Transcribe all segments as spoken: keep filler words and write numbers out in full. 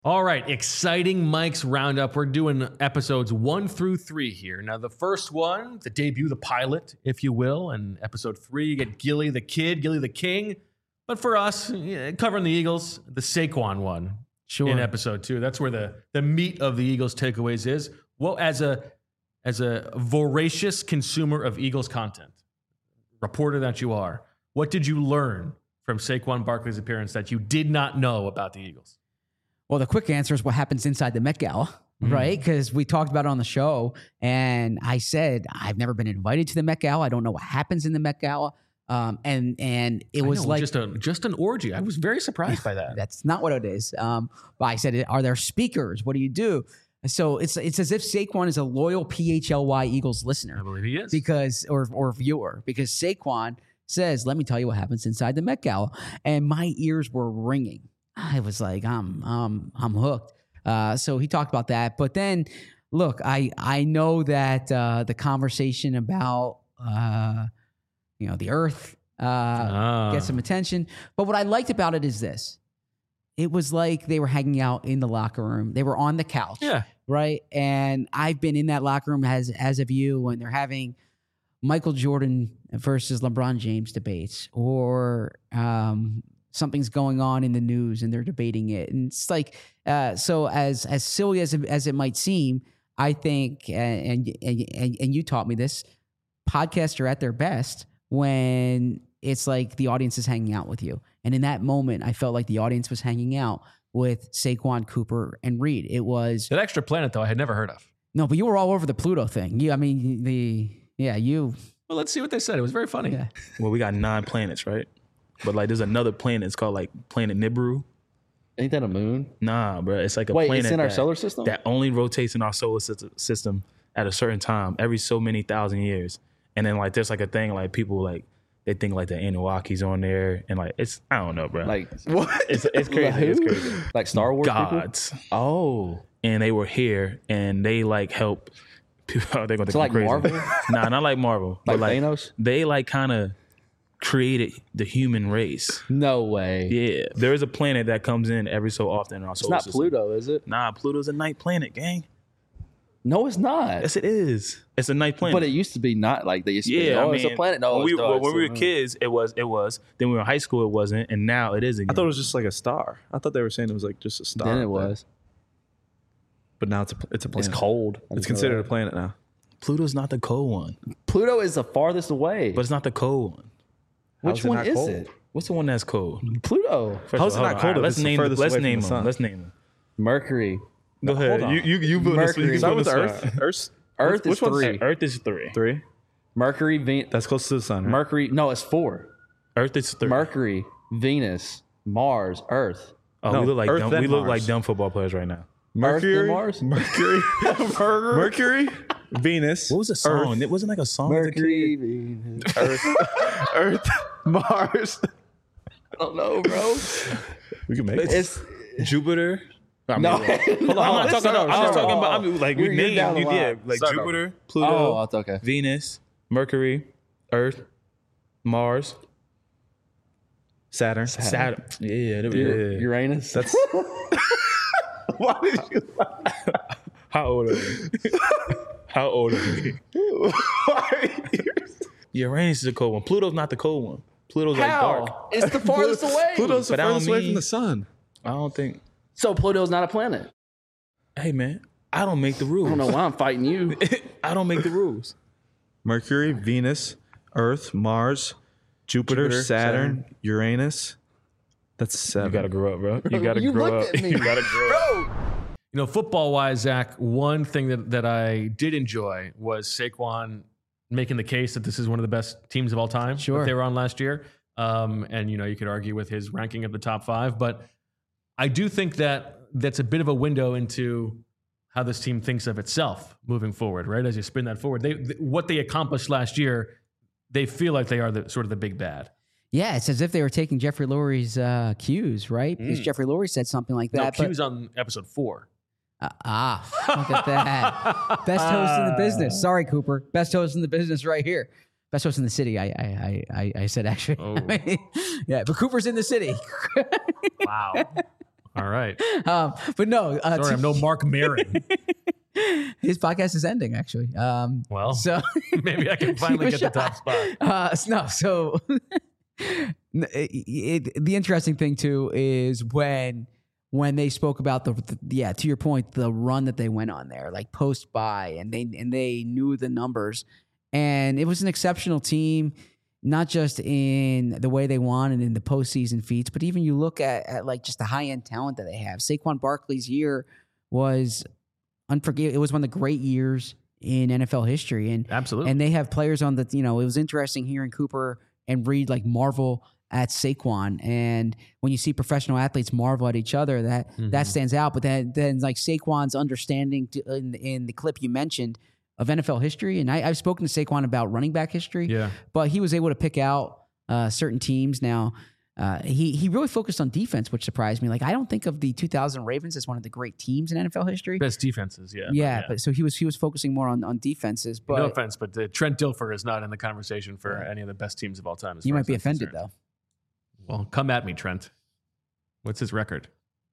All right, exciting Mike's Roundup. We're doing episodes one through three here. Now, the first one, the debut, the pilot, if you will, and episode three, you get Gilly the Kid, Gilly the King. But for us, yeah, covering the Eagles, the Saquon one Sure. in episode two. That's where the, the meat of the Eagles takeaways is. Well, as a as a voracious consumer of Eagles content, reporter that you are, what did you learn from Saquon Barkley's appearance that you did not know about the Eagles? Well, the quick answer is what happens inside the Met Gala, Mm. right? Because we talked about it on the show, and I said I've never been invited to the Met Gala. I don't know what happens in the Met Gala, um, and and it I was know, like just a just an orgy. I was very surprised by that. that's not what it is. Um, but I said, are there speakers? What do you do? So it's it's as if Saquon is a loyal P H L Y Eagles listener. I believe he is. because or or viewer because Saquon says, "Let me tell you what happens inside the Met Gala," and my ears were ringing. I was like, "I'm I'm I'm hooked." Uh, so he talked about that, but then look, I I know that uh, the conversation about uh, you know the Earth uh, Ah. get some attention, but what I liked about it is this: it was like they were hanging out in the locker room. They were on the couch, Yeah. right? And I've been in that locker room as as of you when they're having Michael Jordan versus LeBron James debates, or um, something's going on in the news and they're debating it. And it's like, uh, so as as silly as it, as it might seem, I think, uh, and, and and and you taught me this, podcasts are at their best when it's like the audience is hanging out with you. And in that moment, I felt like the audience was hanging out with Saquon, Cooper, and Reed. It was That extra planet, though, I had never heard of. no, but you were all over the Pluto thing. You, I mean, the yeah, you. Well, let's see what they said. It was very funny. Yeah. Well, we got nine planets, right? But like, there's another planet. It's called like Planet Nibiru. Ain't that a moon? Nah, bro. It's like a Wait, planet it's in our that, solar system? that only rotates in our solar syst- system at a certain time every so many thousand years. And then like, there's like a thing like people like they think like the Anunnakis on there, and like it's I don't know, bro. Like what? It's it's crazy. Who? It's crazy. Like Star Wars people? Gods, Oh. and they were here, and they like help. People, they're gonna So think like I'm crazy. Marvel? Nah, not like Marvel. Like but like Thanos? they like kind of created the human race. No way. Yeah, there is a planet that comes in every so often in our It's solar not system. Pluto, is it? Nah, Pluto's a night planet, gang. No, it's not. Yes, it is. It's a night planet. But it used to be not like they used to be. yeah, Oh, I it's a mean, planet. No, when we, it's not. well, It's when we a were moon. kids, it was. It was. Then when we were in high school, it wasn't, and now it is again. I thought it was just like a star. I thought they were saying it was like just a star. Then it up there. was. But now it's a it's a It's planet. cold. I It's just know considered a that. planet now. Pluto's not the cold one, Pluto is the farthest away. but it's not the cold one. Which How's it one not is cold? it? What's the one that's cold? Pluto. First How's of it all, not hold cold on, if Let's it's the name. furthest Let's away from name the them. sun? Let's name them. Mercury. Go ahead. on. You you you put Mercury. you Start put with this Earth. Earth. Earth. Earth Which is one's three. Earth is three. Three. Mercury, Venus. That's close to the sun. Right? Mercury. No, it's four. Earth is three. Mercury, Venus, Mars, Earth. Oh, No, we look like Earth dumb, then we look Mars. like dumb football players right now. Mercury. Earth and Mars? Mercury. Mercury. Venus. What was the song? Earth. It wasn't like a song. as a Mercury, kid? Venus. Earth. Earth. Mars. I don't know, bro. We can make it. It's Jupiter. I mean, no. hold on, I'm not talking about. I was talking about. I mean, like we You're- you're down named. the You line. did like Start Jupiter, Pluto, Oh, it's okay. Venus, Mercury, Earth, Mars, Saturn. Saturn. Yeah, there we Ur- go. Uranus. That's. Why did you? How old are we? How old are we? Why? Uranus is a cold one. Pluto's not the cold one. Pluto's like dark. How? It's the farthest away. Pluto's the But I don't furthest away mean- from the sun. I don't think. So Pluto's not a planet. Hey man, I don't make the rules. I don't know why I'm fighting you. I don't make the rules. Mercury, Venus, Earth, Mars, Jupiter, Jupiter, Saturn, Saturn. Uranus. That's seven. You gotta grow up, bro. You gotta You grow looked up. at me. You gotta grow up. Bro. You know, football-wise, Zach, one thing that, that I did enjoy was Saquon making the case that this is one of the best teams of all time Sure. that they were on last year. Um, and, you know, you could argue with his ranking of the top five. But I do think that that's a bit of a window into how this team thinks of itself moving forward, right? As you spin that forward. They, th- what they accomplished last year, they feel like they are the sort of the big bad. Yeah, it's as if they were taking Jeffrey Lurie's uh, cues, right? Because Jeffrey Lurie said something like No, that. but- Q's on episode four. Uh, ah, look at that. Best host in the business. Sorry, Cooper. Best host in the business right here. Best host in the city, I I I, I, I said actually. Oh. yeah, but Cooper's in the city. Wow. All right. Um, but no, uh, Sorry, to- I'm no Mark Maron. his podcast is ending actually. Um, Well, so maybe I can finally Give get it the a top spot. Uh, no, so it, it, the interesting thing too is when when they spoke about the, the yeah to your point the run that they went on there like post buy and they and they knew the numbers and it was an exceptional team not just in the way they won and in the postseason feats but even you look at, at like just the high end talent that they have. Saquon Barkley's year was unforgivable. It was one of the great years in N F L history and Absolutely. and they have players on the, you know, it was interesting hearing Cooper and Reed like marvel at Saquon. And when you see professional athletes marvel at each other, that Mm-hmm. that stands out. But then, then like Saquon's understanding to, in, in the clip you mentioned of N F L history, and I, I've spoken to Saquon about running back history, Yeah. but he was able to pick out uh, certain teams. Now, uh, he he really focused on defense, which surprised me. Like I don't think of the two thousand Ravens as one of the great teams in N F L history. Best defenses, yeah. Yeah, but so he was he was focusing more on, on defenses. But no offense, but uh, Trent Dilfer is not in the conversation for any of the best teams of all time. as you far might as be I'm offended concerned. though. Well, come at me, Trent. What's his record?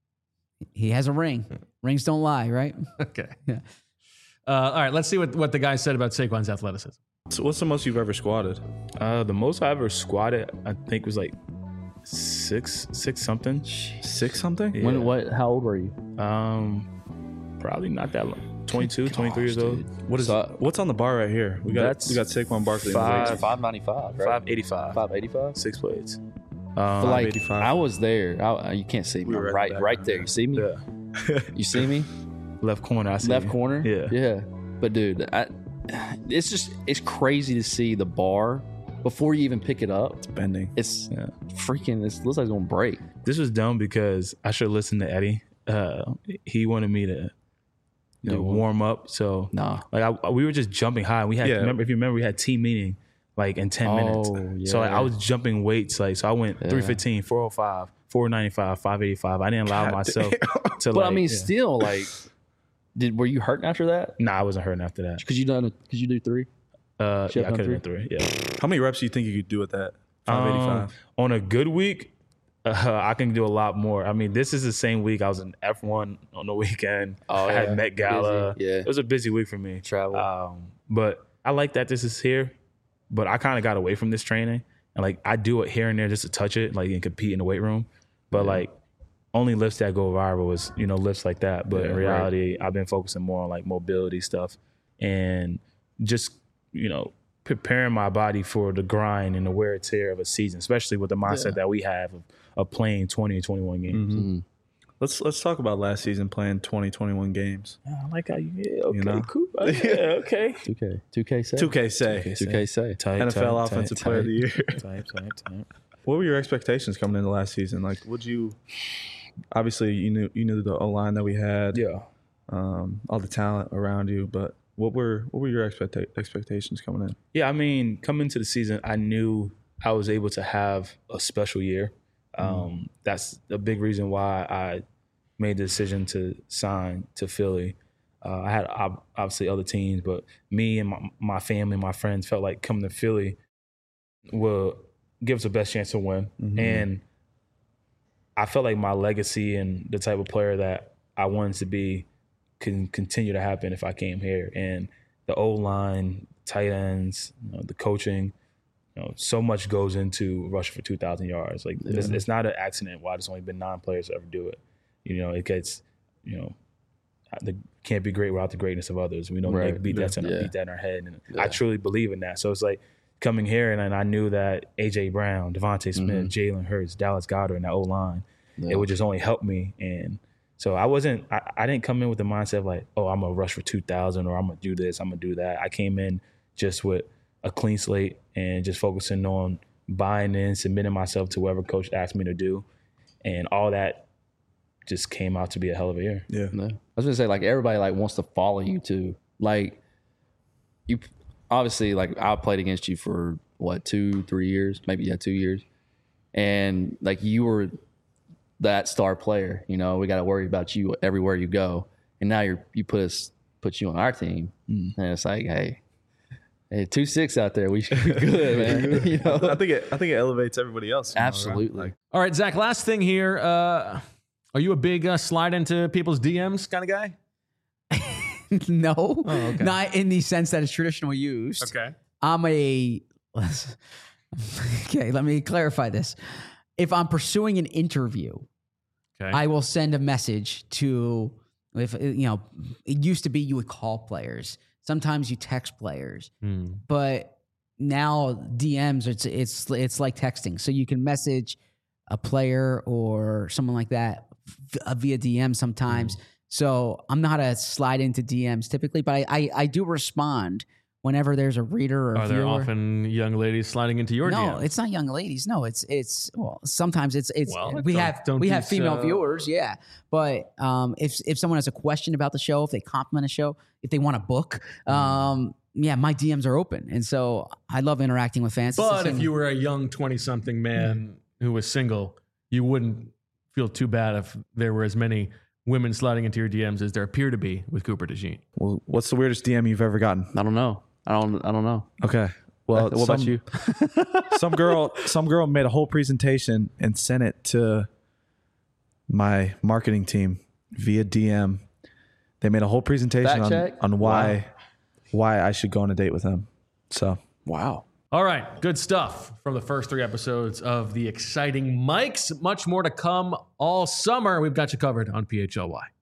He has a ring. Rings don't lie, right? Okay. Yeah. Uh, all right, let's see what, what the guy said about Saquon's athleticism. So what's the most you've ever squatted? Uh, the most I ever squatted, I think, was like six, six something. Six something? Yeah. When what? How old were you? Um, probably not that long. twenty-two, twenty-three years old. What is So- what's on the bar right here? We got That's we got Saquon Barkley. five- in the five ninety five, right? five eighty-five. Five eighty five. Six plates. But Um, like eighty-five. I was there. I, you can't see me. We were I'm at right, the back right of there. there. You see me? yeah. You see me? Left corner. I see. Left corner. Yeah. Yeah. But dude, I, it's just it's crazy to see the bar before you even pick it up. bending. It's Yeah. freaking. It looks like it's gonna break. This was dumb because I should listen to Eddie. Uh, he wanted me to you know, Do what? warm up. So Nah. like I, we were just jumping high. We had Yeah. remember if you remember we had team meeting like in ten minutes. Oh, So like, yeah. I was jumping weights like so I went Yeah. three fifteen, four oh five, four ninety-five, five eighty-five. I didn't allow God myself to But like I mean, yeah. still, like, did were you hurting after that? Nah, I wasn't hurting after that. Because you done? Because you do three? Uh, Should have yeah, I done could have done three. Yeah. How many reps do you think you could do at that? five eighty-five. Um, on a good week, uh, I can do a lot more. I mean, this is the same week I was in F one on the weekend. Oh, I yeah. had Met Gala. Busy, yeah. It was a busy week for me. Travel. Um, but I like that this is here. But I kind of got away from this training. And like I do it here and there just to touch it, like and compete in the weight room. But like only lifts that go viral was, you know, lifts like that. But Yeah, in right. reality, I've been focusing more on like mobility stuff and just, you know, preparing my body for the grind and the wear and tear of a season, especially with the mindset that we have of, of playing twenty and twenty-one games. Mm-hmm. Let's let's talk about last season playing twenty, twenty-one games. Yeah, I like how you, yeah, okay, You know? cool. Yeah, okay. Two K. Two K say. two K say. Two K say. Tight, N F L tight, Offensive tight, Player of the Year. Tight, tight, tight. What were your expectations coming into last season? Like, would you? Obviously, you knew you knew the O line that we had, Yeah. um, all the talent around you. But what were what were your expecta- expectations coming in? Yeah, I mean, coming into the season, I knew I was able to have a special year. Um, That's a big reason why I made the decision to sign to Philly. Uh, I had ob- obviously other teams, but me and my, my family, my friends felt like coming to Philly will give us the best chance to win. Mhm. And I felt like my legacy and the type of player that I wanted to be can continue to happen if I came here. And the O-line, tight ends, you know, the coaching, you know, so much goes into rushing for two thousand yards. Like it's, it's not an accident why there's only been nine players to ever do it. You know, it gets, you know, the can't be great without the greatness of others. We don't Right. make beat that in Yeah. beat that in our head, and Yeah. I truly believe in that. So it's like coming here, and, and I knew that A J Brown, Devontae Smith, Mhm. Jalen Hurts, Dallas Goedert, and that O line, Yeah. it would just only help me. And so I wasn't, I, I didn't come in with the mindset of like, oh, I'm gonna rush for two thousand or I'm gonna do this, I'm gonna do that. I came in just with a clean slate and just focusing on buying in, submitting myself to whatever coach asked me to do, and all that just came out to be a hell of a year. Yeah. No. I was gonna say like everybody like wants to follow you too. Like you obviously like I played against you for what two, three years, maybe yeah, two years, and like you were that star player. You know, we got to worry about you everywhere you go, and now you're you put us put you on our team, Mm. and it's like hey. Hey, two six out there. We should be good, man. You know, I think it I think it elevates everybody else. you know, right? absolutely. Like, All right, Zach, last thing here. Uh, Are you a big uh, slide into people's D Ms kind of guy? No, Oh, okay. not in the sense that it's traditionally used. Okay. I'm a. Okay, let me clarify this. If I'm pursuing an interview, Okay. I will send a message to, if you know, it used to be you would call players. Sometimes you text players, Hmm. but now D Ms, it's it's it's like texting. So you can message a player or someone like that v- via D M sometimes. Hmm. So I'm not a slide into D Ms typically, but I I, I do respond whenever there's a reader or a Are there viewer. often young ladies sliding into your No, D Ms? it's not young ladies. No, it's it's well, sometimes it's it's Well, we don't- have don't we be have female so- viewers, yeah. But um, if if someone has a question about the show, if they compliment a show, if they want a book, Mm. um, yeah, my D Ms are open, and so I love interacting with fans. It's the But if same- you were a young twenty-something man who was single, you wouldn't feel too bad if there were as many women sliding into your D Ms as there appear to be with Cooper DeJean. Well, what's the weirdest D M you've ever gotten? I don't know. I don't. I don't know. Okay. Well, what about some- you? some girl some girl made a whole presentation and sent it to my marketing team via D M. They made a whole presentation Fact on, check? on why why I should go on a date with him. So Wow. All right, good stuff from the first three episodes of the exciting Mics. Much more to come all summer. We've got you covered on P H L Y.